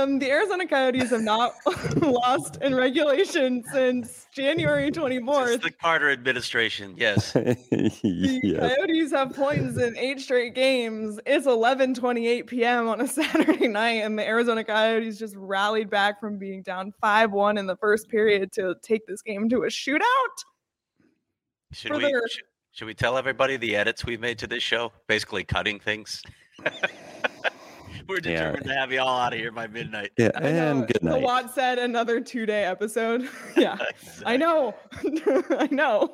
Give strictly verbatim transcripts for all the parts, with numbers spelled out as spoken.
Um, the Arizona Coyotes have not lost in regulation since January twenty-fourth. Since the Carter administration, yes. The Yes. Coyotes have points in eight straight games. It's eleven twenty-eight p.m. on a Saturday night, and the Arizona Coyotes just rallied back from being down five one in the first period to take this game to a shootout. Should For we their- should, should we tell everybody the edits we've made to this show? Basically cutting things. We're determined Yeah. to have you all out of here by midnight. Yeah, I know, and good the night. Watt said another two-day episode. Yeah, I know. I know.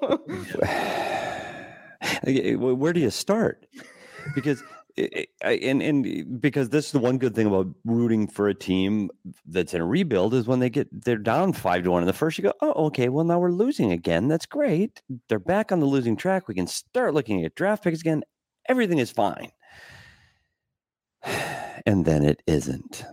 Okay, well, where do you start? Because I- I- and and because this is the one good thing about rooting for a team that's in a rebuild is when they get they're down five to one in the first, you go, oh, okay, well now we're losing again. That's great. They're back on the losing track. We can start looking at draft picks again. Everything is fine. And then it isn't.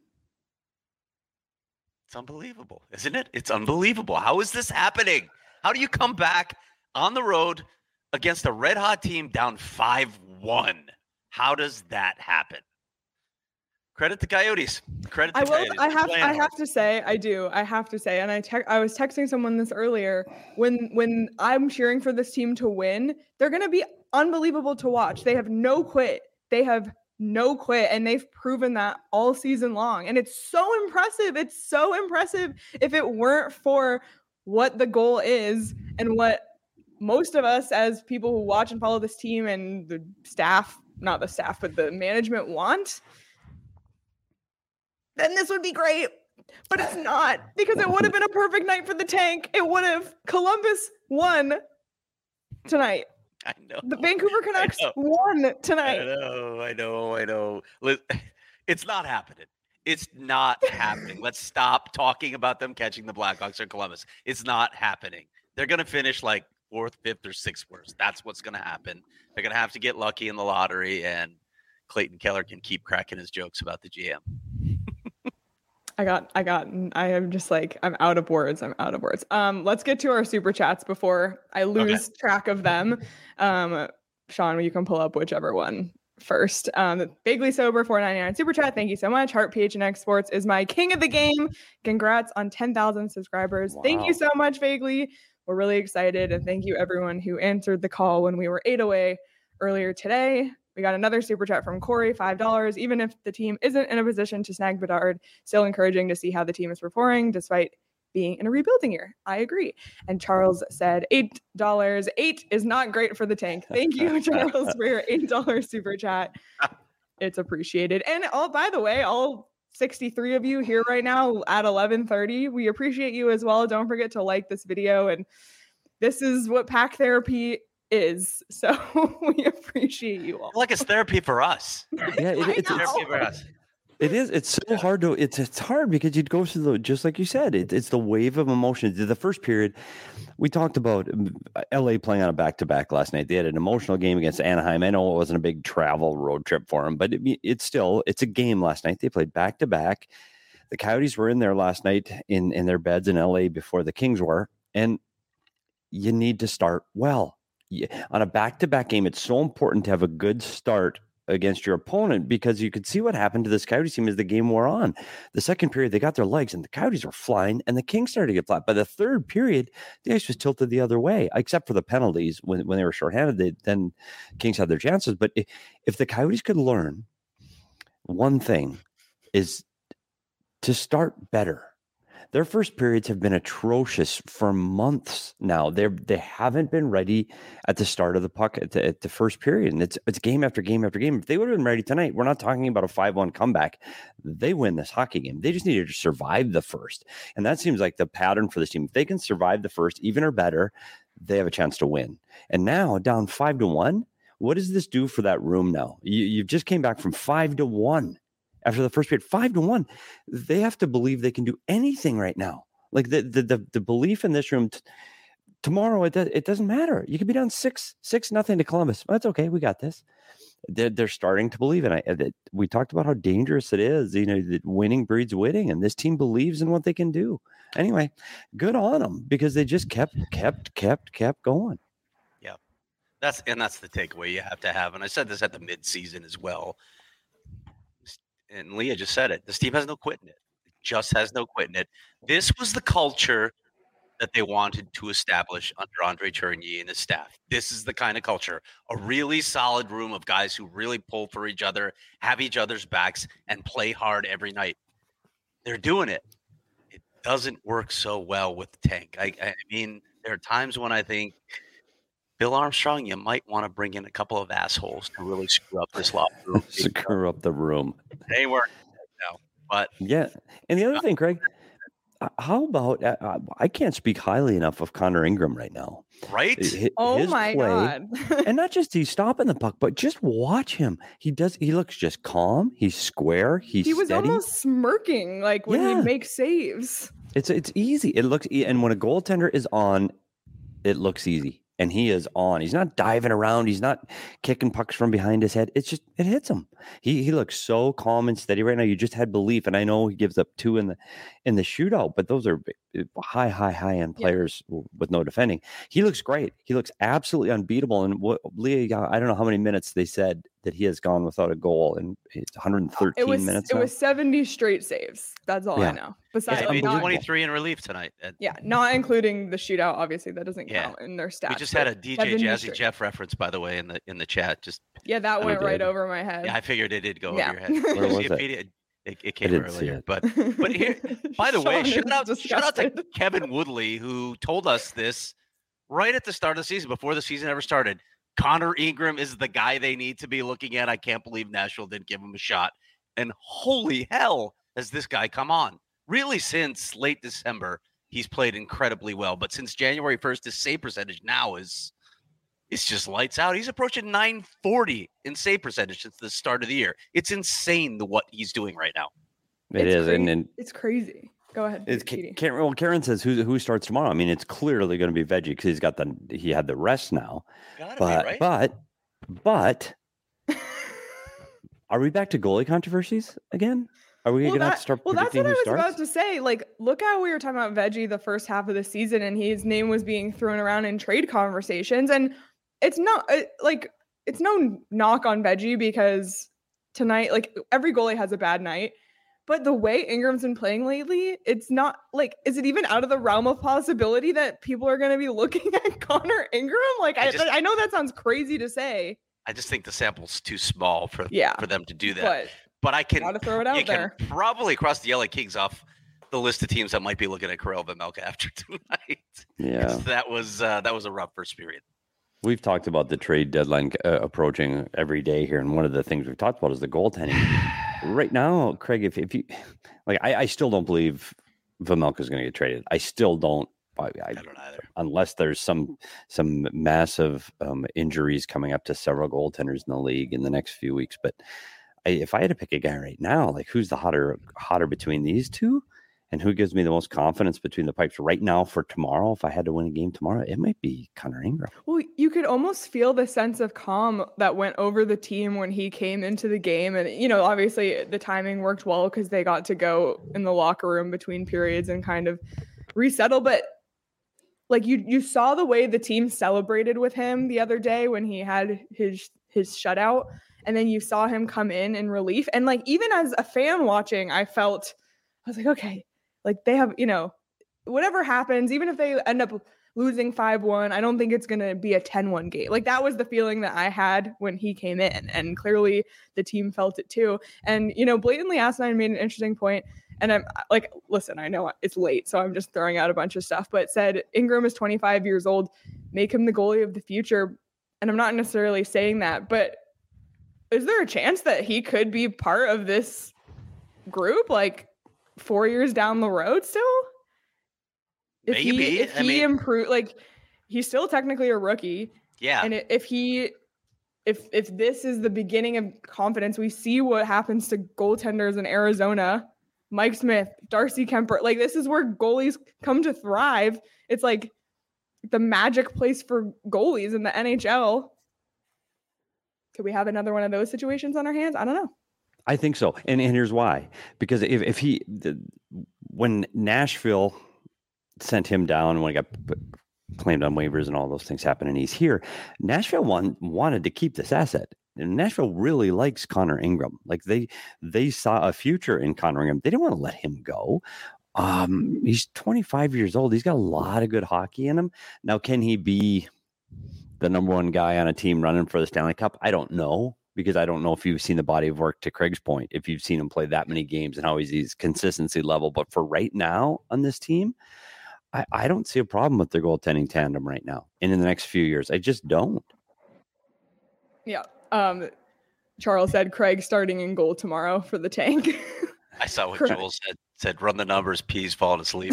It's unbelievable, isn't it? It's unbelievable. How is this happening? How do you come back on the road against a red hot team down five one? How does that happen? Credit the Coyotes. Credit the I will. Coyotes. I They're have. playing I hard. have to say. I do. I have to say. And I. Te- I was texting someone this earlier. When when I'm cheering for this team to win, they're going to be unbelievable to watch. They have no quit. They have no quit, and they've proven that all season long. And it's so impressive. It's so impressive. If it weren't for what the goal is and what most of us as people who watch and follow this team and the staff, not the staff, but the management want, then this would be great. But it's not, because it would have been a perfect night for the tank. It would have. Columbus won tonight. I know. The Vancouver Canucks know. won I tonight. know. I know. I know. Li- It's not happening. It's not happening. Let's stop talking about them catching the Blackhawks or Columbus. It's not happening. They're going to finish like fourth, fifth, or sixth worst. That's what's going to happen. They're going to have to get lucky in the lottery, and Clayton Keller can keep cracking his jokes about the G M. I got, I got, I am just like, I'm out of words. I'm out of words. Um, let's get to our super chats before I lose Okay. track of them. Um, Sean, you can pull up whichever one first. Um, Vaguely Sober four ninety-nine super chat. Thank you so much. Heart P H N X Sports is my king of the game. Congrats on ten thousand subscribers. Thank you Wow. so much, Vaguely. We're really excited. And thank you everyone who answered the call when we were eight away earlier today. We got another super chat from Corey, five dollars. Even if the team isn't in a position to snag Bedard, still encouraging to see how the team is performing despite being in a rebuilding year. I agree. And Charles said eight dollars. Eight is not great for the tank. Thank you, Charles, for your eight dollars super chat. It's appreciated. And oh, by the way, all sixty-three of you here right now at eleven thirty, we appreciate you as well. Don't forget to like this video. And this is what Pack Therapy is. So we appreciate you all. Like it's therapy for us. Yeah, it, I it's, know. it's Therapy for us. It is. It's so hard to. It's it's hard because you'd go through the just like you said. It, it's the wave of emotions. The first period, we talked about um, L A playing on a back to back last night. They had an emotional game against Anaheim. I know it wasn't a big travel road trip for them, but it, it's still it's a game last night. They played back to back. The Coyotes were in there last night in in their beds in L A before the Kings were, and you need to start well. You, on a back to back game, it's so important to have a good start against your opponent because you could see what happened to this Coyotes team as the game wore on. The second period, they got their legs and the Coyotes were flying and the Kings started to get flat. By the third period, the ice was tilted the other way, except for the penalties when, when they were shorthanded. They, then Kings had their chances. But if, if the Coyotes could learn one thing is to start better. Their first periods have been atrocious for months now. They they haven't been ready at the start of the puck at the, at the first period, and it's it's game after game after game. If they would have been ready tonight, we're not talking about a five one comeback. They win this hockey game. They just needed to survive the first, and that seems like the pattern for this team. If they can survive the first, even or better, they have a chance to win. And now down five to one, what does this do for that room now? You you just came back from five to one. After the first period, five to one, they have to believe they can do anything right now. Like the the the, the belief in this room t- tomorrow, it does, it doesn't matter. You could be down six six nothing to Columbus. Well, that's okay. We got this. They're, they're starting to believe, and I that we talked about how dangerous it is. You know, that winning breeds winning, and this team believes in what they can do. Anyway, good on them because they just kept kept kept kept going. Yeah, that's and that's the takeaway you have to have. And I said this at the midseason as well. and Leah just said it. This team has no quit in it. It just has no quit in it. This was the culture that they wanted to establish under Andre Tourigny and his staff. This is the kind of culture, a really solid room of guys who really pull for each other, have each other's backs, and play hard every night. They're doing it. It doesn't work so well with the tank. I, I mean, there are times when I think, Bill Armstrong, you might want to bring in a couple of assholes to really screw up this locker room. Screw up the room. They weren't no, but yeah. And the other thing, Craig, how about uh, I can't speak highly enough of Connor Ingram right now. Right? His, oh his my play, God. And not just he's stopping the puck, but just watch him. He does. He looks just calm. He's square. He's he was steady. almost smirking like when Yeah. he makes saves. It's it's easy. It looks e- and when a goaltender is on, it looks easy. And he is on. He's not diving around. He's not kicking pucks from behind his head. It's just it hits him. He he looks so calm and steady right now. You just had belief, and I know he gives up two in the in the shootout, but those are high, high, high end players yeah. with no defending. He looks great. He looks absolutely unbeatable. And what Leah, I don't know how many minutes they said that he has gone without a goal, and it's one hundred thirteen it was, minutes. It now. was seventy straight saves. That's all yeah. I know. Besides, yeah, not, twenty-three in relief tonight. Yeah, not including the shootout. Obviously, that doesn't yeah. count in their stats. We just had a D J Jazzy straight. Jeff reference, by the way, in the in the chat. Just yeah, that went right over my head. Yeah, I figured it did go yeah. over your head. Where was it? It, it, it came earlier, it. but but here, by the way, shout out, disgusted. shout out to Kevin Woodley, who told us this right at the start of the season, before the season ever started. Connor Ingram is the guy they need to be looking at. I can't believe Nashville didn't give him a shot. And holy hell, has this guy come on? Really, since late December, he's played incredibly well. But since January first, his save percentage now is it's just lights out. He's approaching nine forty in save percentage since the start of the year. It's insane the what he's doing right now. It it's is, crazy. and, and it's crazy. Go ahead. It's Karen, well, Karen says who who starts tomorrow. I mean, it's clearly going to be Veggie because he's got the he had the rest now. Gotta but be, right? but but are we back to goalie controversies again? Are we well, going to that, have to start? Well, that's what I was starts? about to say. Like, look how we were talking about Veggie the first half of the season, and his name was being thrown around in trade conversations. And it's not it, like it's no knock on Veggie because tonight, like every goalie has a bad night. But the way Ingram's been playing lately, it's not like, is it even out of the realm of possibility that people are going to be looking at Connor Ingram? Like, I, I, just, I know that sounds crazy to say. I just think the sample's too small for yeah, for them to do that. But, but I can gotta throw it out you there. Can probably cross the L A Kings off the list of teams that might be looking at Karel Vejmelka after tonight. Yeah, that was uh, that was a rough first period. We've talked about the trade deadline uh, approaching every day here, and one of the things we've talked about is the goaltending. Right now, Craig, if, if you like, I, I still don't believe Vejmelka is going to get traded. I still don't. I, I, I don't either. Unless there's some some massive um, injuries coming up to several goaltenders in the league in the next few weeks. But I, if I had to pick a guy right now, like who's the hotter hotter between these two? And who gives me the most confidence between the pipes right now for tomorrow? If I had to win a game tomorrow, it might be Connor Ingram. Well, you could almost feel the sense of calm that went over the team when he came into the game. And, you know, obviously the timing worked well because they got to go in the locker room between periods and kind of resettle. But like you, you saw the way the team celebrated with him the other day when he had his, his shutout. And then you saw him come in in relief. And like, even as a fan watching, I felt, I was like, okay, like they have, you know, whatever happens, even if they end up losing five one, I don't think it's going to be a ten one game. Like that was the feeling that I had when he came in. And clearly the team felt it too. And, you know, Blatantly Asinine made an interesting point. And I'm like, listen, I know it's late, so I'm just throwing out a bunch of stuff, but said Ingram is twenty-five years old, make him the goalie of the future. And I'm not necessarily saying that, but is there a chance that he could be part of this group? Like, four years down the road still? If Maybe. he, if I he mean, improve, like he's still technically a rookie. Yeah. And if he, if, if this is the beginning of confidence, we see what happens to goaltenders in Arizona, Mike Smith, Darcy Kemper, like this is where goalies come to thrive. It's like the magic place for goalies in the N H L. Could we have another one of those situations on our hands? I don't know. I think so. And, and here's why. Because if, if he, the, when Nashville sent him down, when he got claimed on waivers and all those things happened and he's here, Nashville won, wanted to keep this asset. Nashville really likes Connor Ingram. Like they they saw a future in Connor Ingram. They didn't want to let him go. Um, he's twenty-five years old. He's got a lot of good hockey in him. Now, can he be the number one guy on a team running for the Stanley Cup? I don't know, because I don't know if you've seen the body of work, to Craig's point, if you've seen him play that many games and how he's his consistency level. But for right now on this team, I, I don't see a problem with their goaltending tandem right now and in the next few years. I just don't. Yeah. Um, Charles said Craig starting in goal tomorrow for the Tank. I saw what Correct. Joel said. Said run the numbers. P's falling asleep.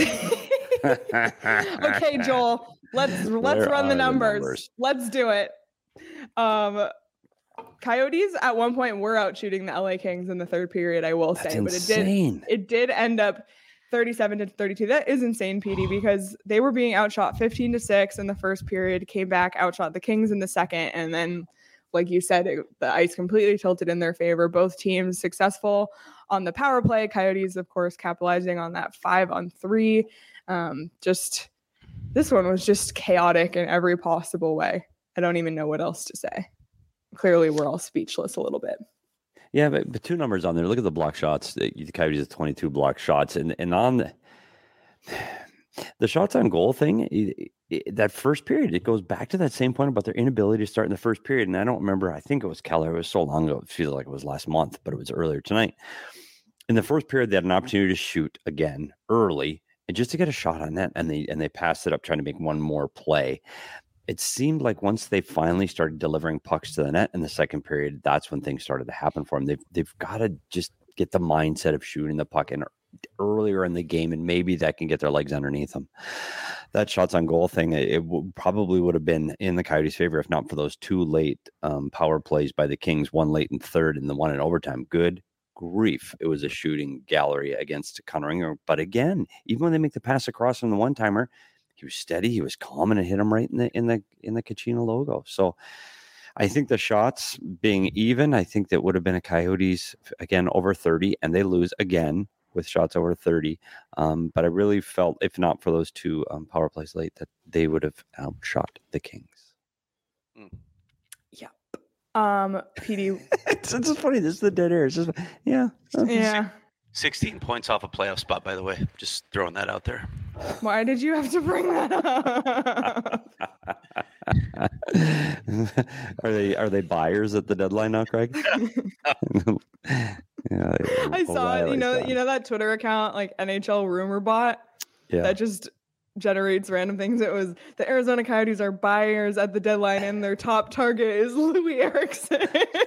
Okay, Joel. Let's let's Where run the are the numbers. numbers? Let's do it. Um, Coyotes at one point were out shooting the L A Kings in the third period, I will That's say, insane. but it did it did end up thirty-seven to thirty-two. That is insane, P D, because they were being outshot fifteen to six in the first period, came back, outshot the Kings in the second, and then, like you said, it, the ice completely tilted in their favor. Both teams successful on the power play. Coyotes, of course, capitalizing on that five on three. Um, just this one was just chaotic in every possible way. I don't even know what else to say. Clearly, we're all speechless a little bit. Yeah, but, but two numbers on there. Look at the block shots. The Coyotes have twenty-two block shots, and and on the, the shots on goal thing, it, it, that first period, it goes back to that same point about their inability to start in the first period. And I don't remember. I think it was Keller. It was so long ago. It feels like it was last month, but it was earlier tonight. In the first period, they had an opportunity to shoot again early, and just to get a shot on net, and they and they passed it up, trying to make one more play. It seemed like once they finally started delivering pucks to the net in the second period, that's when things started to happen for them. They've they've got to just get the mindset of shooting the puck in earlier in the game, and maybe that can get their legs underneath them. That shots on goal thing, it, it w- probably would have been in the Coyotes' favor if not for those two late um, power plays by the Kings, one late in third and the one in overtime. Good grief. It was a shooting gallery against Connor Ingram. But again, even when they make the pass across from the one-timer, he was steady. He was calm, and it hit him right in the in the in the Kachina logo. So I think the shots being even, I think that would have been a Coyotes again over thirty, and they lose again with shots over thirty. Um, but I really felt, if not for those two um, power plays late, that they would have outshot the Kings. Mm. Yeah. Um, P D. it's, it's just funny. This is the dead air. It's just yeah, okay. Yeah. sixteen points off a playoff spot, by the way. Just throwing that out there. Why did you have to bring that up? are they are they buyers at the deadline now, Craig? yeah, I saw it. You know, that. you know that Twitter account, like N H L Rumor Bot, yeah. that just generates random things. It was the Arizona Coyotes are buyers at the deadline, and their top target is Louis Eriksson.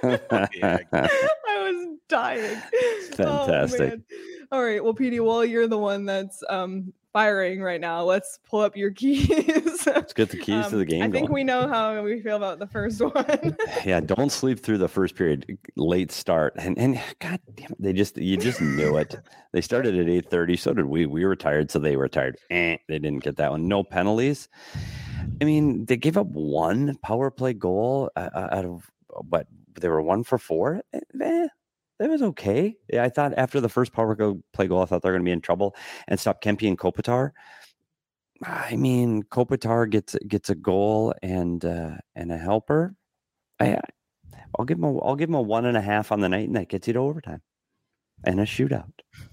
I was dying. Fantastic. Oh, all right. Well, P D, well, you're the one that's um firing right now. Let's pull up your keys. Let's get the keys um, to the game. I think going. we know how we feel about the first one. Yeah, don't sleep through the first period. Late start, and and God damn it, they just you just knew it. They started at eight thirty. So did we. We were tired, so they were tired. Eh, they didn't get that one. No penalties. I mean, they gave up one power play goal uh, out of what they were one for four. Eh, That was okay. Yeah, I thought after the first power play goal, I thought they're going to be in trouble and stop Kempe and Kopitar. I mean, Kopitar gets gets a goal and uh, and a helper. I I'll give him a I'll give him a one and a half on the night, and that gets you to overtime and a shootout.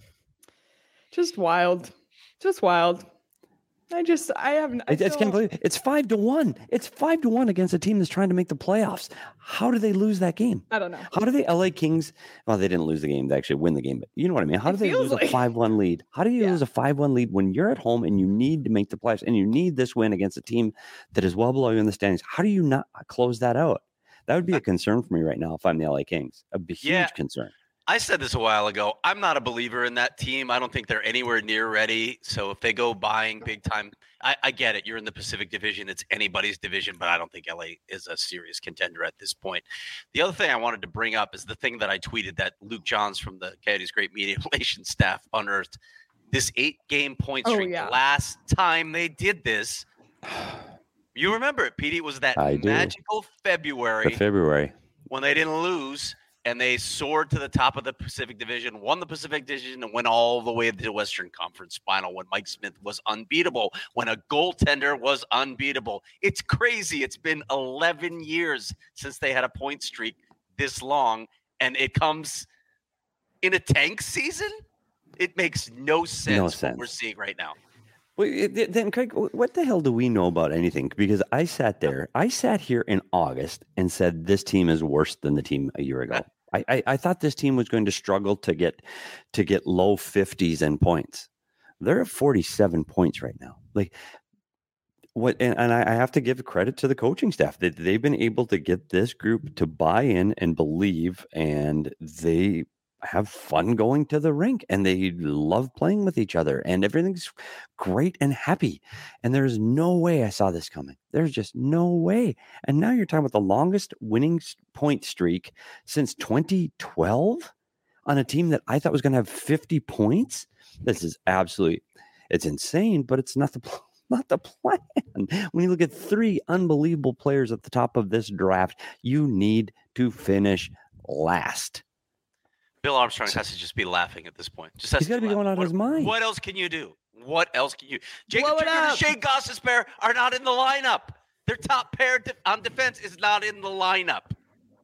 Just wild, just wild. I just, I haven't. I It's, can't believe it. It's five to one. It's five to one against a team that's trying to make the playoffs. How do they lose that game? I don't know. How do the L A Kings? Well, they didn't lose the game. They actually win the game, but you know what I mean. How It do they feels lose like- a five-one lead? How do you Yeah. lose a five-one lead when you're at home and you need to make the playoffs and you need this win against a team that is well below you in the standings? How do you not close that out? That would be a concern for me right now if I'm the L A Kings. A huge Yeah. concern. I said this a while ago. I'm not a believer in that team. I don't think they're anywhere near ready. So if they go buying big time, I, I get it. You're in the Pacific Division. It's anybody's division, but I don't think L A is a serious contender at this point. The other thing I wanted to bring up is the thing that I tweeted that Luke Johns from the Coyotes Great Media Relations staff unearthed. This eight-game point Oh, streak. yeah. The last time they did this, you remember it, Petey, was that I do. magical February For February. when they didn't lose. And they soared to the top of the Pacific Division, won the Pacific Division, and went all the way to the Western Conference Final when Mike Smith was unbeatable, when a goaltender was unbeatable. It's crazy. It's been eleven years since they had a point streak this long, and it comes in a tank season. It makes no sense, No what sense. we're seeing right now. Well, it- then, Craig, what the hell do we know about anything? Because I sat there, I sat here in August and said this team is worse than the team a year ago. I, I, I thought this team was going to struggle to get to get low fifties in points. They're at forty-seven points right now. Like what? And, and I, I have to give credit to the coaching staff that they've been able to get this group to buy in and believe, and they have fun going to the rink, and they love playing with each other, and everything's great and happy. And there's no way I saw this coming. There's just no way. And now you're talking about the longest winning point streak since twenty twelve on a team that I thought was going to have fifty points. This is absolutely, it's insane, but it's not the not the plan. When you look at three unbelievable players at the top of this draft, you need to finish last. Bill Armstrong has to just be laughing at this point. Just has He's got to be going out of his mind. What else can you do? What else can you? Jacob Blow it Trigger and up. Shane Gostisbehere are not in the lineup. Their top pair de- on defense is not in the lineup.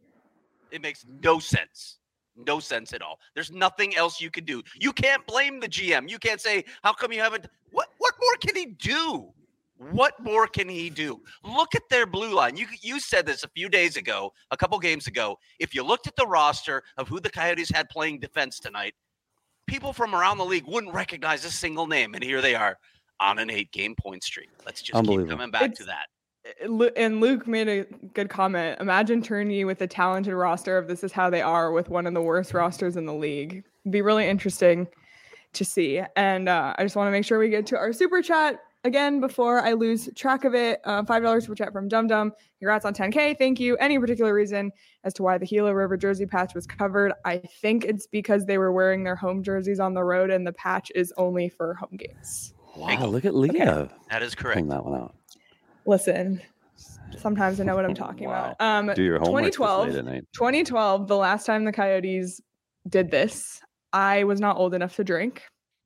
It makes no sense. No sense at all. There's nothing else you can do. You can't blame the G M. You can't say, how come you haven't? What What more can he do? What more can he do? Look at their blue line. You you said this a few days ago, a couple games ago. If you looked at the roster of who the Coyotes had playing defense tonight, people from around the league wouldn't recognize a single name. And here they are on an eight-game point streak. Let's just keep coming back It's- to that. Lu- And Luke made a good comment. Imagine Tourney with a talented roster of this is how they are with one of the worst rosters in the league. It'd be really interesting to see. And uh, I just want to make sure we get to our super chat again before I lose track of it. Uh, five dollars super chat from Dum Dum. Congrats on ten K. Thank you. Any particular reason as to why the Gila River jersey patch was covered? I think it's because they were wearing their home jerseys on the road and the patch is only for home games. Wow, look at Leah. That is Pulling correct. that one out. Listen, sometimes I know what I'm talking Wow. about. Um, Do your homework twenty twelve, this late at night. twenty twelve, the last time the Coyotes did this, I was not old enough to drink,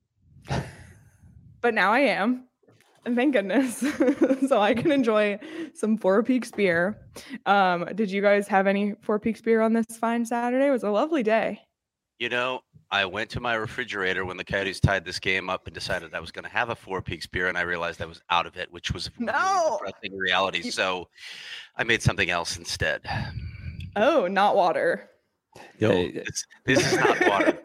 but now I am. And thank goodness. So I can enjoy some Four Peaks beer. Um, did you guys have any Four Peaks beer on this fine Saturday? It was a lovely day. You know, I went to my refrigerator when the Coyotes tied this game up and decided I was going to have a Four Peaks beer, and I realized I was out of it, which was a really No. depressing reality. So I made something else instead. Oh, not water. Yo, Hey, it's, this is not water.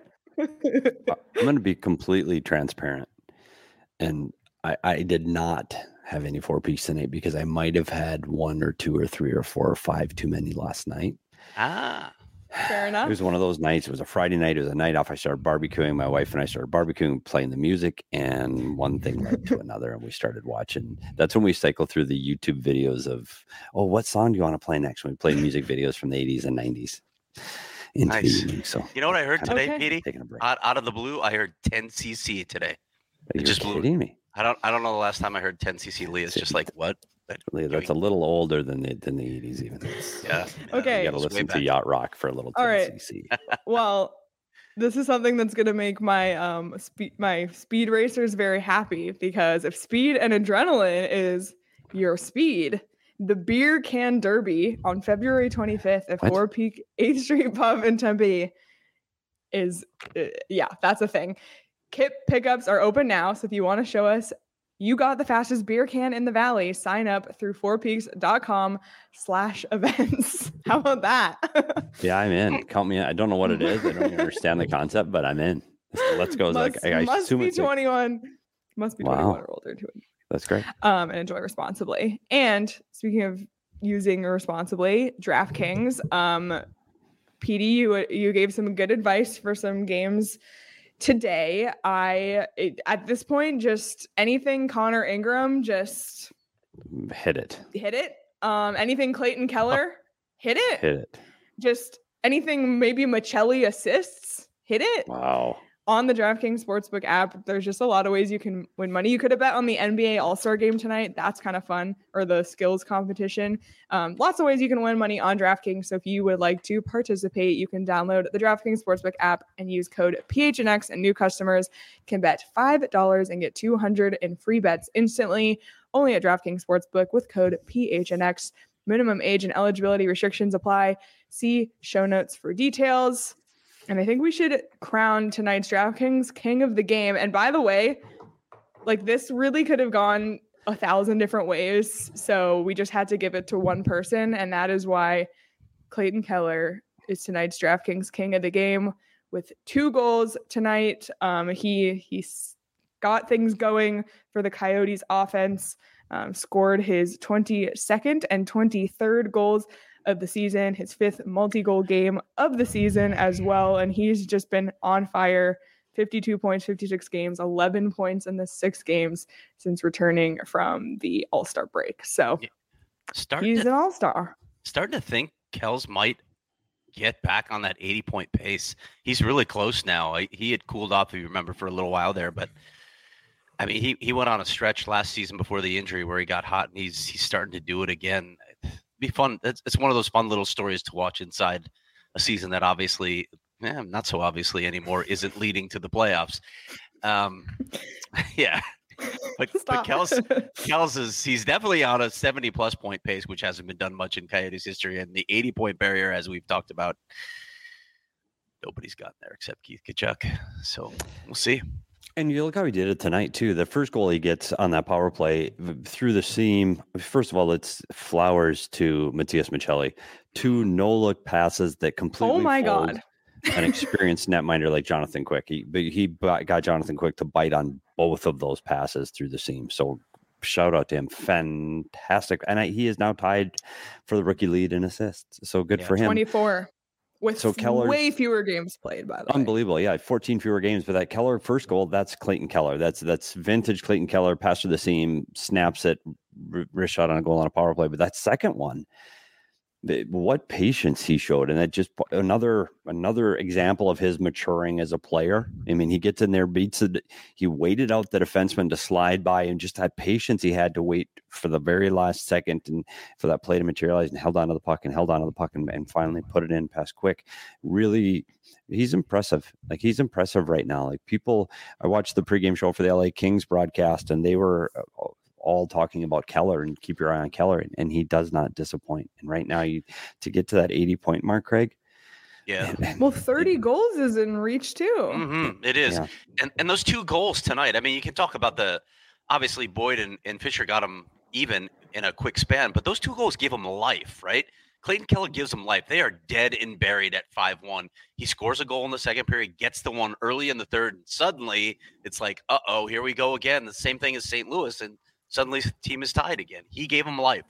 I'm going to be completely transparent. And I, I did not have any four peaks tonight because I might have had one or two or three or four or five too many last night. Ah, Fair enough. It was one of those nights. It was a Friday night. It was a night off. I started barbecuing. My wife and I started barbecuing, playing the music, and one thing led to another. And we started watching. That's when we cycled through the YouTube videos of, oh, what song do you want to play next? When we played music videos from the eighties and nineties into Nice. the evening. So you know what I heard today, Okay. Petey? taking a break. Out, out of the blue, I heard ten C C today. You're just blew- kidding me. I don't I don't know the last time I heard ten C C Lee. It's just like, what? But That's a little older than the than the eighties even. yeah. Okay. You got to It's way listen to back. yacht rock for a little All right. ten C C. Well, this is something that's going to make my um speed my speed racers very happy, because if speed and adrenaline is your speed, the beer can derby on February twenty-fifth at What? Four Peak eighth Street Pub in Tempe is uh, yeah, that's a thing. Kit pickups are open now, so if you want to show us you got the fastest beer can in the valley, sign up through fourpeaks.com slash events. How about that? Yeah, I'm in. Count me in. I don't know what it is. I don't even understand the concept, but I'm in. Let's go. must, Like, I must assume be it's like- twenty-one. Must be Wow. twenty-one or older to that's great. um and enjoy responsibly. And speaking of using responsibly, DraftKings, um, P D, you you gave some good advice for some games today. I it, at this point, just anything Connor Ingram, just Hit it. hit it. Um, anything Clayton Keller, hit it. Hit it. Just anything maybe Michelli assists, hit it. Wow. On the DraftKings Sportsbook app, there's just a lot of ways you can win money. You could have bet on the N B A All-Star game tonight. That's kind of fun. Or the skills competition. Um, lots of ways you can win money on DraftKings. So if you would like to participate, you can download the DraftKings Sportsbook app and use code P H N X, and new customers can bet five dollars and get two hundred in free bets instantly. Only at DraftKings Sportsbook with code P H N X. Minimum age and eligibility restrictions apply. See show notes for details. And I think we should crown tonight's DraftKings king of the game. And by the way, like this really could have gone a thousand different ways. So we just had to give it to one person. And that is why Clayton Keller is tonight's DraftKings king of the game with two goals tonight. Um, he he's got things going for the Coyotes offense, um, scored his twenty-second and twenty-third goals of the season, his fifth multi-goal game of the season as well. And he's just been on fire. fifty-two points, fifty-six games, eleven points in the six games since returning from the All-Star break. So starting he's to, an All-Star. Starting to think Kells might get back on that eighty-point pace. He's really close now. He had cooled off, if you remember, for a little while there. But, I mean, he, he went on a stretch last season before the injury where he got hot, and he's he's starting to do it again. It'd be fun. It's, it's one of those fun little stories to watch inside a season that obviously – Eh, not so obviously anymore, isn't leading to the playoffs. Um, yeah. But, but Kels, Kels is, he's definitely on a seventy plus point pace, which hasn't been done much in Coyotes history. And the eighty point barrier, as we've talked about, nobody's gotten there except Keith Tkachuk. So we'll see. And you look how he did it tonight, too. The first goal he gets on that power play through the seam. First of all, it's flowers to Matias Maccelli. Two no-look passes that completely Oh, my fold. God. An experienced netminder like Jonathan Quick. He he got Jonathan Quick to bite on both of those passes through the seam. So shout out to him. Fantastic. And I, he is now tied for the rookie lead in assists. So good yeah, for him. twenty-four with so Keller's, way fewer games played, by the way. Unbelievable. Yeah, fourteen fewer games. But that Keller first goal, that's Clayton Keller. That's that's vintage Clayton Keller. Pass through the seam, snaps it, wrist shot on a goal on a power play. But that second one, what patience he showed, and that just another another example of his maturing as a player. I mean, he gets in there, beats it. He waited out the defenseman to slide by, and just that patience he had to wait for the very last second and for that play to materialize, and held on to the puck and held on to the puck and, and finally put it in past Quick. Really, he's impressive. Like he's impressive right now. Like people, I watched the pregame show for the L A Kings broadcast, and they were all talking about Keller and keep your eye on Keller, and, and he does not disappoint. And right now, you to get to that eighty point mark, Craig. Yeah. Man, well, thirty it, goals is in reach too. Mm-hmm, it is. Yeah. And and those two goals tonight, I mean, you can talk about the, obviously Boyd and, and Fisher got them even in a quick span, but those two goals give them life, right? Clayton Keller gives them life. They are dead and buried at five one. He scores a goal in the second period, gets the one early in the third, and suddenly it's like, uh-oh, here we go again. The same thing as Saint Louis, and suddenly the team is tied again. He gave him life.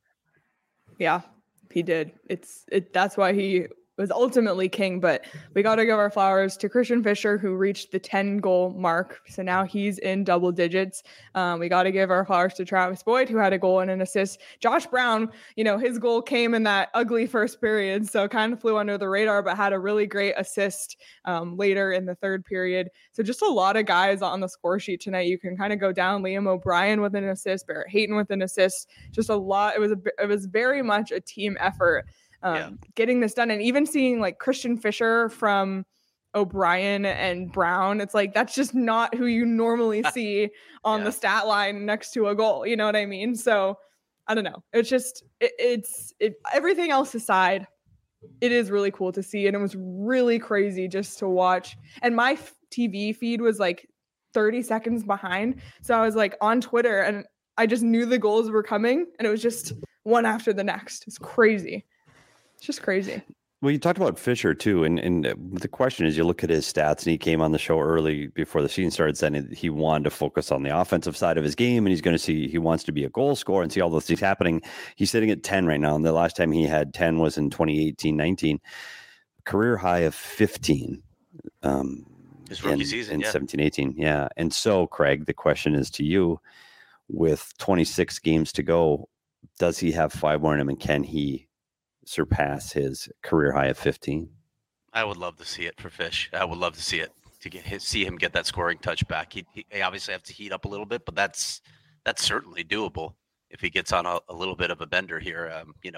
Yeah, he did. It's it. That's why he was ultimately king, but we got to give our flowers to Christian Fischer, who reached the ten goal mark. So now he's in double digits. Um, we got to give our flowers to Travis Boyd, who had a goal and an assist. Josh Brown, you know, his goal came in that ugly first period, so kind of flew under the radar, but had a really great assist um, later in the third period. So just a lot of guys on the score sheet tonight. You can kind of go down. Liam O'Brien with an assist, Barrett Hayton with an assist. Just a lot. It was a, it was very much a team effort. Um, yeah. Getting this done, and even seeing like Christian Fischer from O'Brien and Brown, it's like that's just not who you normally see on yeah. the stat line next to a goal. You know what I mean? So I don't know. It's just it, it's it, everything else aside, it is really cool to see, and it was really crazy just to watch. And my T V feed was like thirty seconds behind, so I was like on Twitter, and I just knew the goals were coming, and it was just one after the next. It's crazy. It's just crazy. Well, you talked about Fisher too, and, and the question is, you look at his stats, and he came on the show early before the season started saying he wanted to focus on the offensive side of his game, and he's going to see, he wants to be a goal scorer and see all those things happening. He's sitting at ten right now, and the last time he had ten was in twenty eighteen nineteen, career high of fifteen. Um, his rookie in, season, in yeah. seventeen eighteen, yeah. And so, Craig, the question is to you, with twenty-six games to go, does he have five more in him, and can he surpass his career high of fifteen? I would love to see it for Fish. I would love to see it, to get his, see him get that scoring touch back. He, he obviously have to heat up a little bit, but that's that's certainly doable if he gets on a, a little bit of a bender here. Um, you know,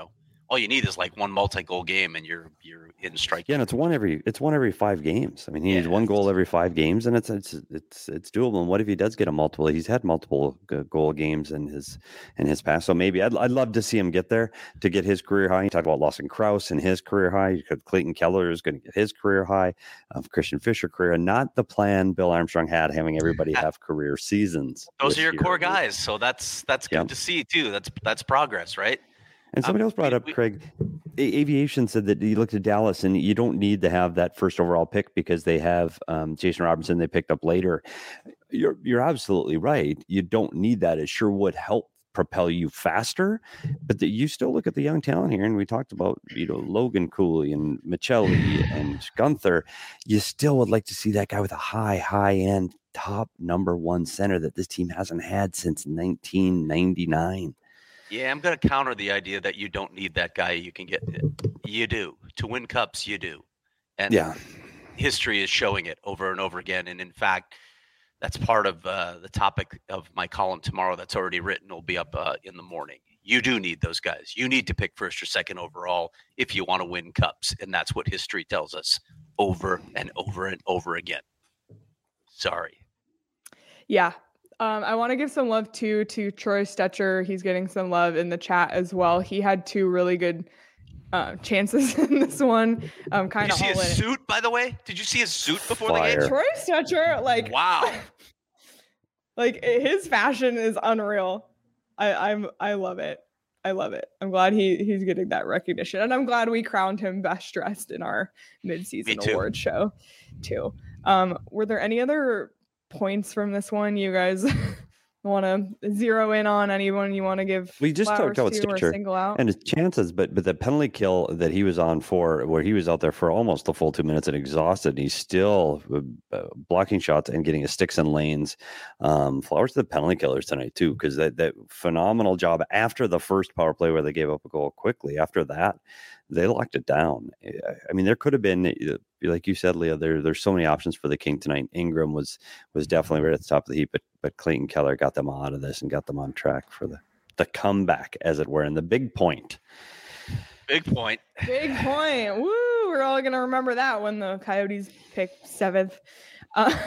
all you need is like one multi-goal game and you're you're in strike. Yeah, and it's one every it's one every five games. I mean, he needs Yeah, one goal it's- every five games, and it's it's it's it's doable. And what if he does get a multiple? He's had multiple g- goal games in his in his past. So maybe I'd I'd love to see him get there to get his career high. You talk about Lawson Krause and his career high. Clayton Keller is going to get his career high. Of Christian Fischer career, and not the plan Bill Armstrong had, having everybody have career seasons. Those are your year. core guys, so that's that's good Yep. to see too. That's that's progress, right? And somebody Um, else brought we- up, we- Craig, A- Aviation said that you looked at Dallas and you don't need to have that first overall pick because they have um, Jason Robinson they picked up later. You're you're absolutely right. You don't need that. It sure would help propel you faster, but the, you still look at the young talent here, and we talked about, you know, Logan Cooley and Michelli and Gunther. You still would like to see that guy with a high, high end top number one center that this team hasn't had since nineteen ninety-nine. Yeah, I'm going to counter the idea that you don't need that guy. You can get you do to win cups. You do, and Yeah. history is showing it over and over again. And in fact, that's part of uh, the topic of my column tomorrow. That's already written. Will be up uh, in the morning. You do need those guys. You need to pick first or second overall if you want to win cups, and that's what history tells us over and over and over again. Sorry. Yeah. Um, I want to give some love too to Troy Stetcher. He's getting some love in the chat as well. He had two really good uh, chances in this one. Um, Did kind you of see all his in. suit, by the way? Did you see his suit before the Fire. game? Troy Stetcher, like Wow. like his fashion is unreal. I, I'm I love it. I love it. I'm glad he he's getting that recognition, and I'm glad we crowned him best dressed in our mid-season Me too. award show, too. Um, were there any other points from this one you guys want to zero in on? Anyone you want to give? We just flowers talked about to or Stitcher single out? and his chances, but but the penalty kill that he was on for, where he was out there for almost the full two minutes and exhausted, and he's still uh, blocking shots and getting his sticks in lanes. Um, flowers to the penalty killers tonight too, because that that phenomenal job after the first power play where they gave up a goal quickly. After that, they locked it down. I mean, there could have been, like you said, Leah, there there's so many options for the King tonight. Ingram was was definitely right at the top of the heap, but but Clayton Keller got them out of this and got them on track for the the comeback, as it were, and the big point. Big point. Big point. Woo! We're all gonna remember that when the Coyotes pick seventh. Uh,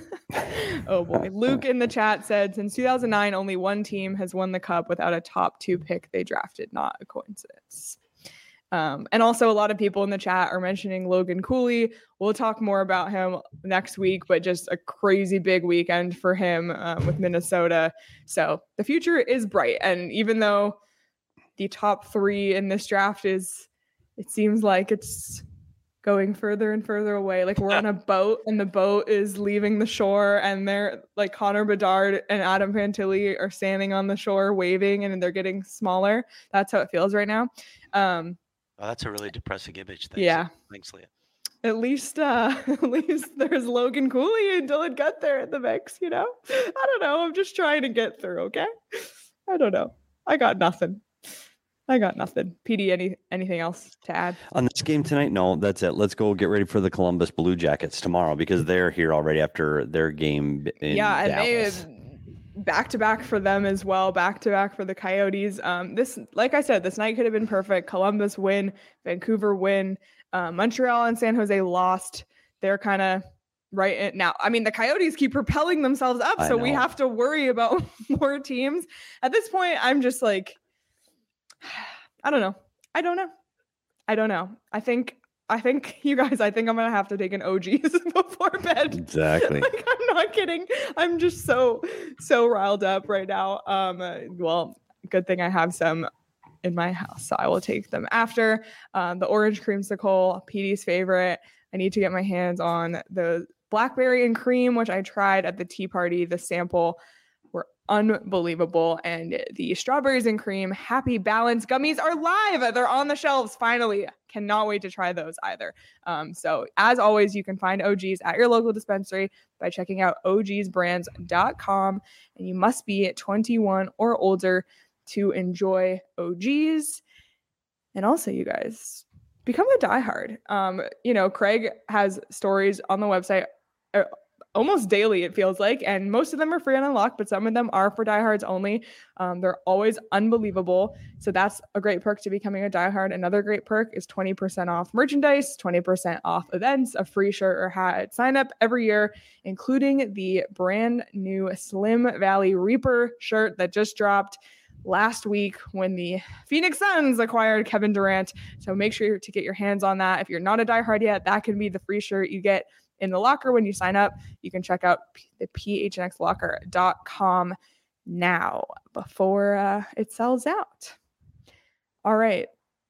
oh boy. Luke in the chat said, since two thousand nine, only one team has won the cup without a top two pick they drafted. Not a coincidence. Um, and also a lot of people in the chat are mentioning Logan Cooley. We'll talk more about him next week, but just a crazy big weekend for him um, with Minnesota. So the future is bright. And even though the top three in this draft is, it seems like it's going further and further away. Like we're on a boat and the boat is leaving the shore, and they're like Connor Bedard and Adam Fantilli are standing on the shore waving, and they're getting smaller. That's how it feels right now. Um, Oh, that's a really depressing image. Thanks. Yeah. Thanks, Leah. At least, uh, at least there's Logan Cooley and Dylan Gunther in the mix, you know? I don't know. I'm just trying to get through, okay? I don't know. I got nothing. I got nothing. P D, any anything else to add? On this game tonight, no, that's it. Let's go get ready for the Columbus Blue Jackets tomorrow, because they're here already after their game in yeah, and Dallas. they back to back for them as well. Back to back for the Coyotes. Um, this, like I said, this night could have been perfect. Columbus win, Vancouver win, uh, Montreal and San Jose lost. They're kind of right in, now. I mean, the Coyotes keep propelling themselves up, I so we know. have to worry about more teams. At this point, I'm just like, I don't know. I don't know. I don't know. I think. I think you guys, I think I'm going to have to take an O Gs before bed. Exactly. Like, I'm not kidding. I'm just so, so riled up right now. Um, uh, well, good thing I have some in my house, so I will take them after. Um, the orange creamsicle, P D's favorite. I need to get my hands on the blackberry and cream, which I tried at the tea party. The sample were unbelievable. And the strawberries and cream Happy Balance gummies are live. They're on the shelves finally. Cannot wait to try those either. Um, so as always, you can find O Gs at your local dispensary by checking out O Gs brands dot com. And you must be twenty-one or older to enjoy O Gs. And also, you guys, become a diehard. Um, you know, Craig has stories on the website. Uh, almost daily, it feels like. And most of them are free on Unlock, but some of them are for diehards only. Um, they're always unbelievable. So that's a great perk to becoming a diehard. Another great perk is twenty percent off merchandise, twenty percent off events, a free shirt or hat at sign up every year, including the brand new Slim Valley Reaper shirt that just dropped last week when the Phoenix Suns acquired Kevin Durant. So make sure to get your hands on that. If you're not a diehard yet, that can be the free shirt you get in the locker when you sign up. You can check out the p h n x locker dot com now before uh, it sells out. All right,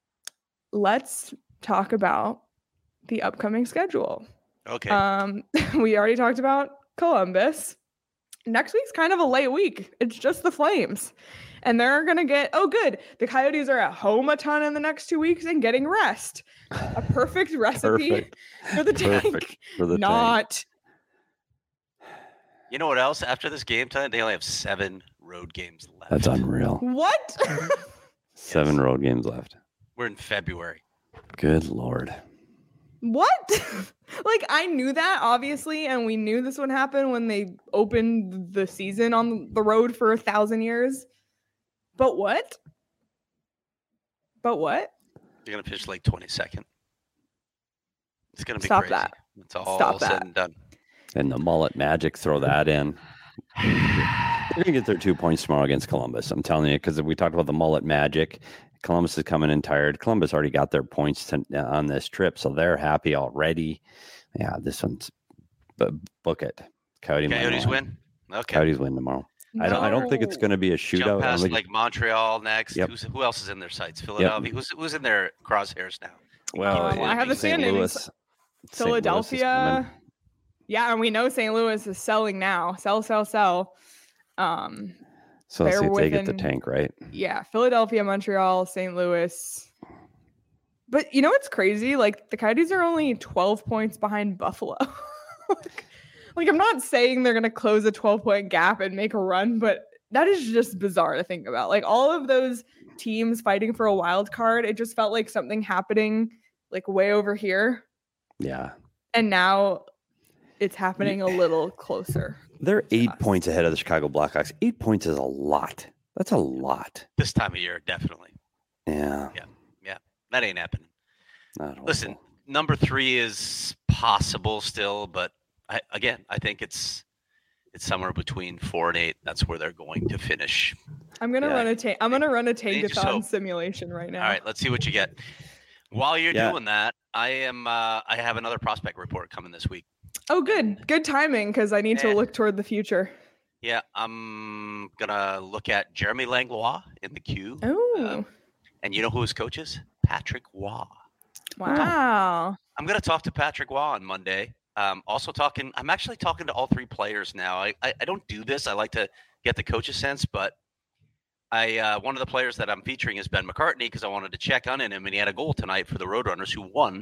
let's talk about the upcoming schedule. Okay. Um, we already talked about Columbus. Next week's kind of a late week. It's just the Flames. And they're going to get, oh, good. The Coyotes are at home a ton in the next two weeks and getting rest. A perfect recipe Perfect. for the tank. Perfect for the Not. tank. You know what else? After this game tonight, they only have seven road games left. That's unreal. What? Seven road games left. We're in February. Good Lord. What? Like, I knew that, obviously, and we knew this would happen when they opened the season on the road for a thousand years. But what? But what? They're going to pitch like twenty-second. It's going to be Stop crazy. that. It's all Stop said that. and done. And the mullet magic, throw that in. They're going to get their two points tomorrow against Columbus. I'm telling you, because we talked about the mullet magic. Columbus is coming in tired. Columbus already got their points to, on this trip, so they're happy already. Yeah, this one's but book it. Coyote Coyotes win? Okay. Coyotes win tomorrow. I don't. I don't think it's going to be a shootout. Jump past think, like Montreal next. Yep. Who's, who else is in their sights? Philadelphia. Who's, who's in their crosshairs now? well, Um, I have the Saint standings. Louis. Saint Louis is Philadelphia. coming. Yeah, and we know Saint Louis is selling now. Sell, sell, sell. Um, So let's they're see if they get the within- tank right. yeah, Philadelphia, Montreal, Saint Louis. But you know what's crazy? Like, the Coyotes are only twelve points behind Buffalo. like, like, I'm not saying they're going to close a twelve-point gap and make a run, but that is just bizarre to think about. Like, all of those teams fighting for a wild card, it just felt like something happening, like, way over here. Yeah, And now it's happening a little closer. they're eight us. points ahead of the Chicago Blackhawks. Eight points is a lot. That's a lot. This time of year, definitely. Yeah. That ain't happening. Not Listen, hopeful. number three is possible still, but I, again, I think it's it's somewhere between four and eight. That's where they're going to finish. I'm gonna Yeah. run a tank. I'm gonna run a Need to sow. tankathon simulation right now. All right, let's see what you get. While you're Yeah. doing that, I am. Uh, I have another prospect report coming this week. Oh, good. Good timing because I need to Eh. look toward the future. Yeah, I'm gonna look at Jeremy Langlois in the queue. Oh, Um, and you know who his coach is? Patrick Waugh. wow. I'm going to talk to Patrick Waugh on Monday. Um, also talking, I'm actually talking to all three players now. I, I, I don't do this. I like to get the coach's sense, but I uh, one of the players that I'm featuring is Ben McCartney because I wanted to check on him, and he had a goal tonight for the Roadrunners who won.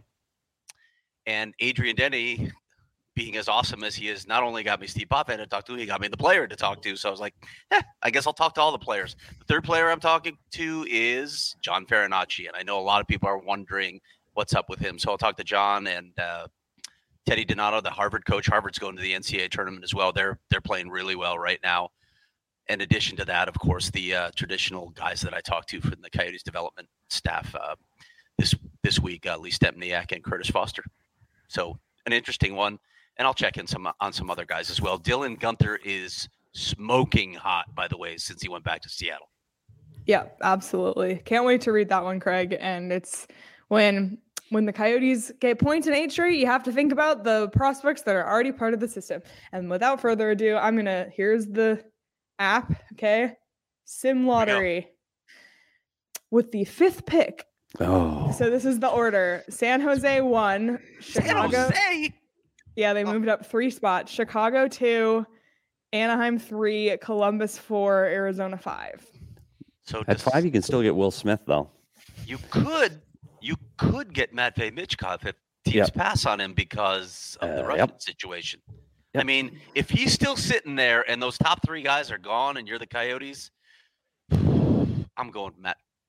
And Adrian Denny, being as awesome as he is, not only got me Steve Potvin to talk to, he got me the player to talk to. So I was like, eh, I guess I'll talk to all the players. The third player I'm talking to is John Farinacci, and I know a lot of people are wondering what's up with him. So I'll talk to John and uh, Teddy Donato, the Harvard coach. Harvard's going to the N C A A tournament as well. They're they're playing really well right now. In addition to that, of course, the uh, traditional guys that I talked to from the Coyotes development staff uh, this this week, uh, Lee Stempniak and Curtis Foster. So an interesting one. And I'll check in some on some other guys as well. Dylan Gunther is smoking hot, by the way, since he went back to Seattle. Yeah, absolutely. Can't wait to read that one, Craig. And it's when when the Coyotes get points in eight straight, you have to think about the prospects that are already part of the system. And without further ado, I'm gonna here's the app. Okay, Sim Lottery with the fifth pick. Oh, So this is the order: San Jose one, Chicago. San Jose! Yeah, they moved up three spots. Chicago two, Anaheim three, Columbus four, Arizona five. So at does- five, you can still get Will Smith though. you could you could get Matvei Michkov if teams Yep. pass on him because of the Uh, Russian yep. situation. I Yep. mean, if he's still sitting there and those top three guys are gone and you're the Coyotes, I'm going Matt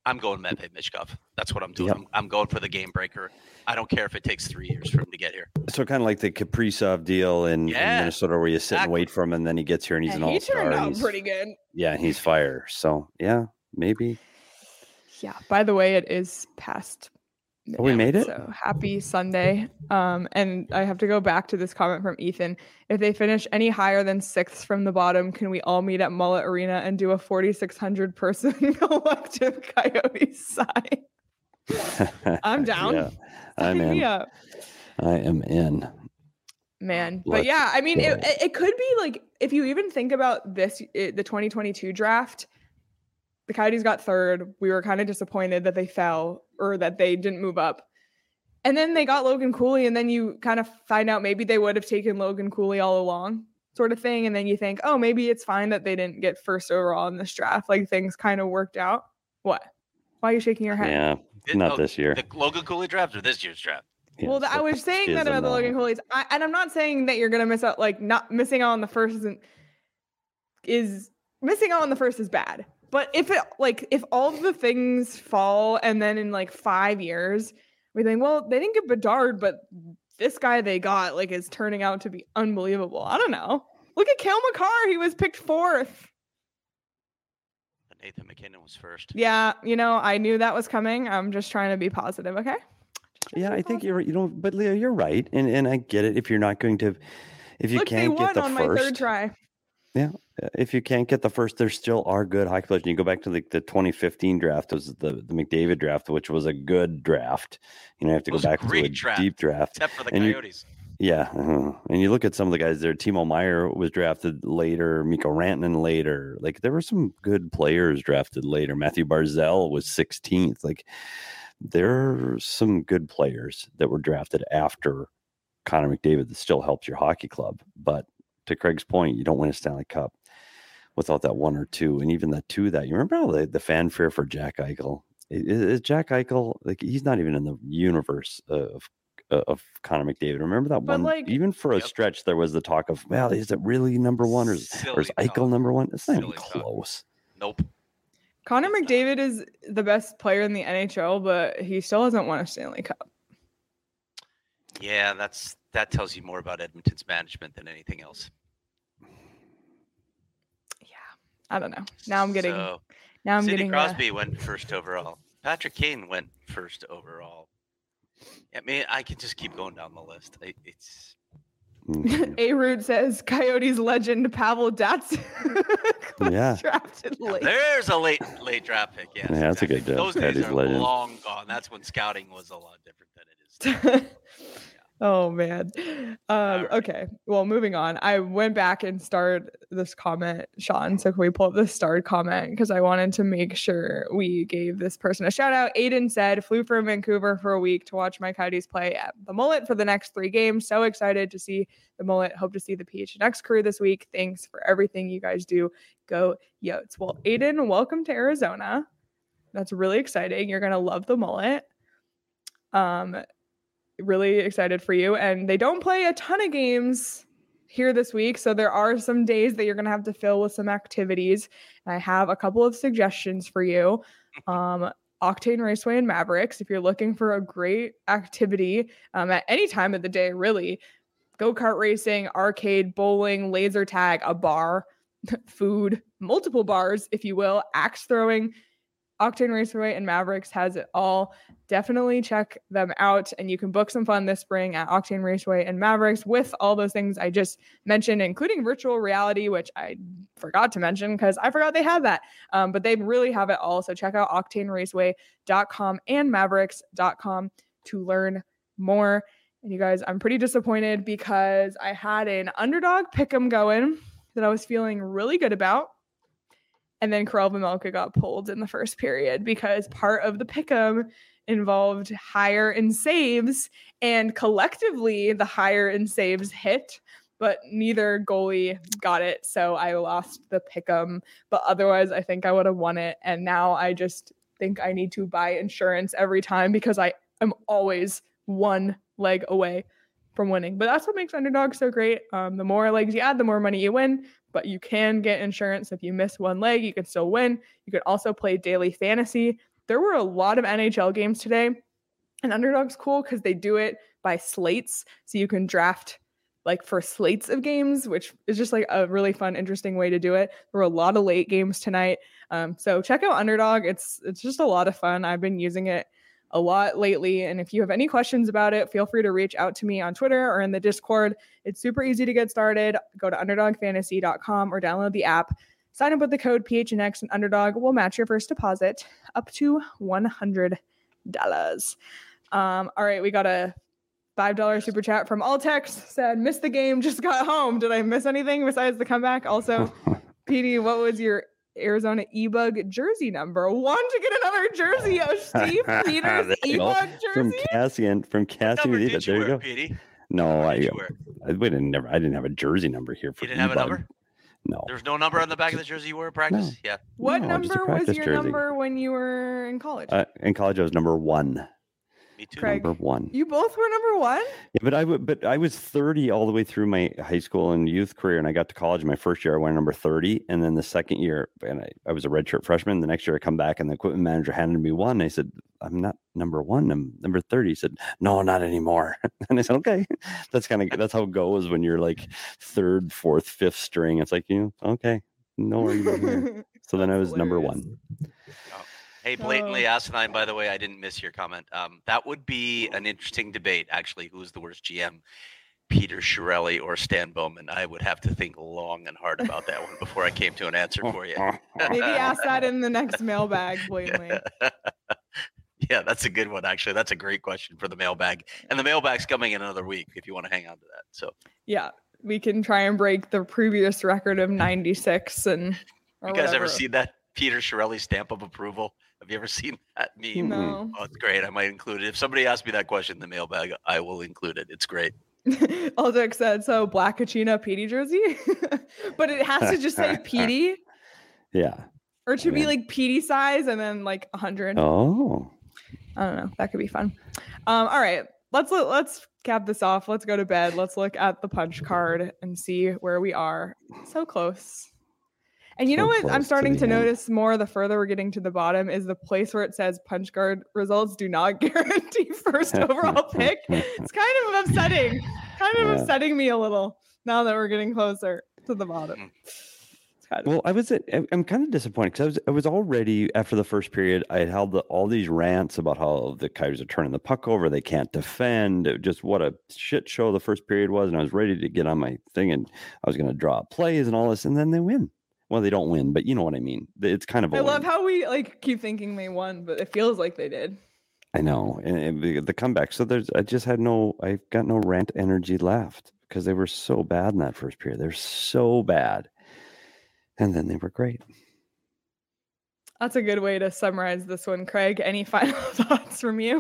I'm going Medved Michkov. That's what I'm doing. Yep. I'm, I'm going for the game breaker. I don't care if it takes three years for him to get here. So kind of like the Kaprizov deal in, Yeah, in Minnesota, where you sit exactly. and wait for him, and then he gets here and he's And an he all-star. turned out he's, pretty good. Yeah, he's fire. So yeah, maybe. Yeah. By the way, it is past. Oh, we made it? So happy Sunday. Um, and I have to go back to this comment from Ethan. If they finish any higher than sixth from the bottom, can we all meet at Mullet Arena and do a forty-six hundred person collective Coyotes sign? I'm down. Yeah, I'm Sign me in. up. I am in. Man. But Let's yeah, I mean, go. it, it could be like, if you even think about this, it, the twenty twenty-two draft, the Coyotes got third. We were kind of disappointed that they fell or that they didn't move up. And then they got Logan Cooley, and then you kind of find out maybe they would have taken Logan Cooley all along, sort of thing. And then you think, oh, maybe it's fine that they didn't get first overall in this draft. Like, things kind of worked out. What? Why are you shaking your head? Yeah, It- not oh, this year. The Logan Cooley draft or this year's draft? Yeah, well, the, I so was saying that schism about the now. Logan Cooley's, I, and I'm not saying that you're gonna miss out. Like, not missing out on the first isn't is missing out on the first is bad. But if it like if all of the things fall, and then in like five years we think, well, they didn't get Bedard, but this guy they got like is turning out to be unbelievable. I don't know. Look at Cale Makar; he was picked fourth. But Nathan McKinnon was first. Yeah, you know, I knew that was coming. I'm just trying to be positive. Okay. Yeah, I think you're. You know, but Leo, you're right, and and I get it. If you're not going to, if you Look, they can't won get the on my third first, try. yeah, if you can't get the first, there still are good hockey players. And you go back to the, the twenty fifteen draft, was the the McDavid draft, which was a good draft. You know, you have to It go was a back to great a draft. deep draft. Except for the And you- Coyotes. Yeah, uh-huh. And you look at some of the guys there. Timo Meyer was drafted later. Miko Rantanen later. Like, there were some good players drafted later. Matthew Barzal was sixteenth. Like, there are some good players that were drafted after Connor McDavid that still helps your hockey club. But to Craig's point, you don't win a Stanley Cup without that one or two. And even that two that you remember all the, the fanfare for Jack Eichel. Is, is Jack Eichel, like, he's not even in the universe of of Connor McDavid. Remember that But, one? like- Even for a Yep. stretch, there was the talk of, well, is it really number one, or is, or is Silly Eichel talk. number one? It's not even Silly talk. close. Nope. Connor It's not. McDavid is the best player in the N H L, but he still hasn't won a Stanley Cup. Yeah, that's that tells you more about Edmonton's management than anything else. Yeah, I don't know. Now I'm getting. So, now I'm Sidney getting. uh, Crosby went first overall. Patrick Kane went first overall. I mean, I can just keep going down the list. I, it's Mhm. A Root says Coyotes legend Pavel Datsyuk was Yeah. drafted late. there's a late late draft pick. Yes, Yeah, that's a exactly. good job. Those That days is are legend. long gone. That's when scouting was a lot different than it is now. Oh man. Um, right. okay. Well, moving on. I went back and starred this comment, Sean. So can we pull up the starred comment? Because I wanted to make sure we gave this person a shout out. Aiden said, flew from Vancouver for a week to watch my Coyotes play at the Mullet for the next three games. So excited to see the Mullet. Hope to see the P H N X crew this week. Thanks for everything you guys do. Go Yotes. Well, Aiden, welcome to Arizona. That's really exciting. You're gonna love the Mullet. Um, really excited for you. And they don't play a ton of games here this week, so there are some days that you're gonna have to fill with some activities. And I have a couple of suggestions for you. Um, Octane Raceway and Mavericks, if you're looking for a great activity um, at any time of the day, really. Go-kart racing, arcade, bowling, laser tag, a bar, food, multiple bars, if you will, axe throwing. Octane Raceway and Mavericks has it all. Definitely check them out, and you can book some fun this spring at Octane Raceway and Mavericks with all those things I just mentioned, including virtual reality, which I forgot to mention because I forgot they had that. Um, but they really have it all. So check out octane raceway dot com and mavericks dot com to learn more. And you guys, I'm pretty disappointed because I had an underdog pick'em going that I was feeling really good about. And then Karel Vejmelka got pulled in the first period because part of the pick'em involved higher in saves, and collectively the higher in saves hit, but neither goalie got it. So I lost the pick'em, but otherwise I think I would have won it. And now I just think I need to buy insurance every time because I am always one leg away from winning. But that's what makes underdog so great. Um, the more legs you add, the more money you win. But you can get insurance if you miss one leg, you can still win. You can also play daily fantasy there were a lot of N H L games today, and Underdog's cool because they do it by slates. So you can draft like for slates of games, which is just like a really fun, interesting way to do it. There were a lot of late games tonight. Um, so check out Underdog. It's it's just a lot of fun. I've been using it a lot lately. And if you have any questions about it, feel free to reach out to me on Twitter or in the Discord. It's super easy to get started. Go to underdog fantasy dot com or download the app. Sign up with the code P H N X and Underdog will match your first deposit up to one hundred dollars. Um, all right, we got a five dollars super chat from Altex. Said, missed the game, just got home. Did I miss anything besides the comeback? Also, P D, what was your Arizona E-Bug jersey number? Want to get another jersey of Steve Peters E-Bug jersey? From Cassian. From Cassian. What number there did you you wear, go. Petey? No, What I, did you wear? I, we didn't never. I didn't have a jersey number here for You didn't have a E-Bug. number? No. There was no number on the back of the jersey you wore at practice? No. Yeah. What No, just a number was practice your jersey. number when you were in college? Uh, in college, I was number one. Me too. Craig. Number one. You both were number one? Yeah, but I would, but I was thirty all the way through my high school and youth career, and I got to college. My first year, I went number thirty, and then the second year, and I, I was a redshirt freshman. The next year, I come back, and the equipment manager handed me one. I said, "I'm not number one. I'm number thirty." He said, "No, not anymore." And I said, "Okay." That's kind of that's how it goes when you're like third, fourth, fifth string. It's like, you know, okay, no worries. here. So then I was That's number hilarious. one. Hey, blatantly Oh. asinine, by the way, I didn't miss your comment. Um, that would be an interesting debate, actually. Who's the worst G M, Peter Chiarelli or Stan Bowman? I would have to think long and hard about that one before I came to an answer for you. Maybe ask that in the next mailbag, blatantly. Yeah, that's a good one, actually. That's a great question for the mailbag. And the mailbag's coming in another week if you want to hang on to that. So, Yeah, we can try and break the previous record of ninety-six. And or you guys ever whatever. seen that Peter Chiarelli stamp of approval? Have you ever seen that meme? No. Oh, it's great. I might include it. If somebody asks me that question in the mailbag, I will include it. It's great. Aldex said, so Black Kachina Petey jersey? But it has to just say Petey, Yeah. or to be Yeah. like Petey size and then like one hundred. Oh. I don't know. That could be fun. Um, all right. Let's let, let's cap this off. Let's go to bed. Let's look at the punch card and see where we are. So close. And you So know what close I'm to starting the to end. notice more the further we're getting to the bottom is the place where it says punch card results do not guarantee first overall pick. It's kind of upsetting. Kind of Yeah. upsetting me a little now that we're getting closer to the bottom. It's kind of Well, I was at, I- I'm kind of disappointed because I was I was already after the first period. I had held the, all these rants about how the Coyotes are turning the puck over, they can't defend, it- just what a shit show the first period was, and I was ready to get on my thing and I was going to draw plays and all this, and then they win. Well, they don't win, but you know what I mean. It's kind of a I love win. how we like keep thinking they won, but it feels like they did. I know, and, and the, the comeback. So there's, I just had no, I got no rant energy left because they were so bad in that first period. They're so bad, and then they were great. That's a good way to summarize this one. Craig, any final thoughts from you?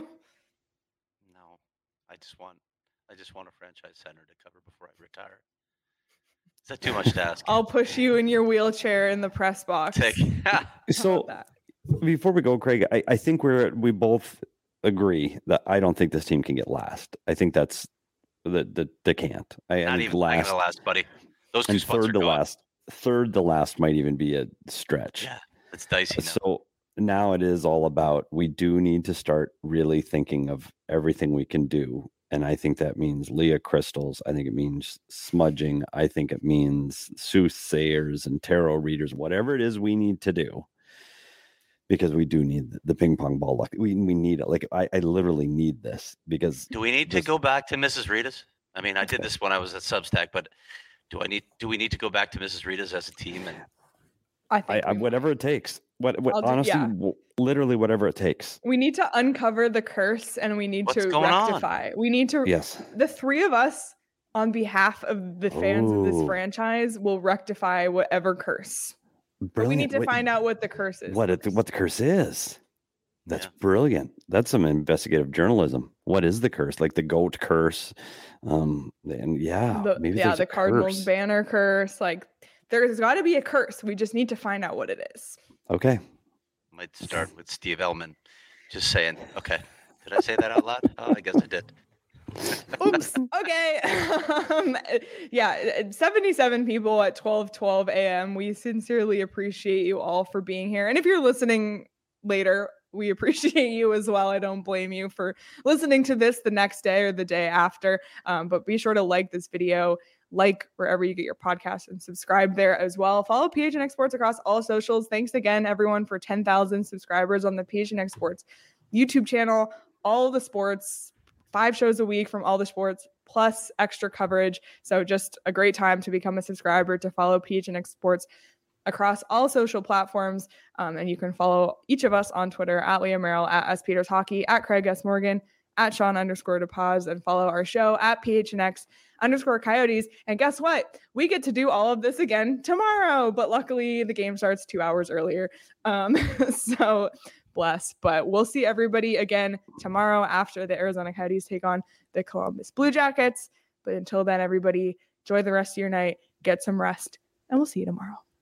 No, I just want, I just want a franchise center to cover before I retire. Is that too much to ask? I'll push you in your wheelchair in the press box. Take. How So about before we go, Craig, I, I think we're we both agree that I don't think this team can get last. I think that's the the they can't. I, I Not think even last the last, buddy. Those two and spots are third to gone. last. Third to last might even be a stretch. Yeah, it's dicey now. So now it is all about we do need to start really thinking of everything we can do. And I think that means Leah crystals. I think it means smudging. I think it means soothsayers and tarot readers, whatever it is we need to do. Because we do need the- the ping pong ball. Luck. We, we need it. Like I, I literally need this because Do we need to this- go back to Missus Rita's? I mean, I did this when I was at Substack, but do I need? Do we need to go back to Missus Rita's as a team? And I I, think I we, whatever it takes. What, what I'll do- honestly, yeah. w- literally whatever it takes. we need to uncover the curse and we need What's to going on? rectify. We need to Yes. the three of us on behalf of the fans of this Ooh. franchise will rectify whatever curse. But we need to find out what the curse is. what it, first. what the curse is. That's Yeah. brilliant. That's some investigative journalism. What is the curse? Like the goat curse. Um, and yeah, the, maybe yeah, there's the a Cardinals curse. banner curse. Like there's got to be a curse. We just need to find out what it is. Okay. might start with Steve Ellman, just saying. Okay, did I say that out loud? Oh, I guess I did. Oops. Okay. um, yeah, seventy-seven people at twelve twelve a m. We sincerely appreciate you all for being here. And if you're listening later, we appreciate you as well. I don't blame you for listening to this the next day or the day after. Um, but be sure to like this video, like wherever you get your podcast, and subscribe there as well. Follow P H N X Sports across all socials. Thanks again, everyone, for ten thousand subscribers on the P H N X Sports YouTube channel. All the sports, five shows a week from all the sports, plus extra coverage. So just a great time to become a subscriber, to follow P H N X Sports across all social platforms. Um, and you can follow each of us on Twitter at Leah Merrill, at S Peters Hockey, at Craig S. Morgan, at Sean underscore DePaz, and follow our show at P H N X underscore Coyotes. And guess what? We get to do all of this again tomorrow, but luckily the game starts two hours earlier. Um, so bless, but we'll see everybody again tomorrow after the Arizona Coyotes take on the Columbus Blue Jackets. But until then, everybody, enjoy the rest of your night, get some rest, and we'll see you tomorrow.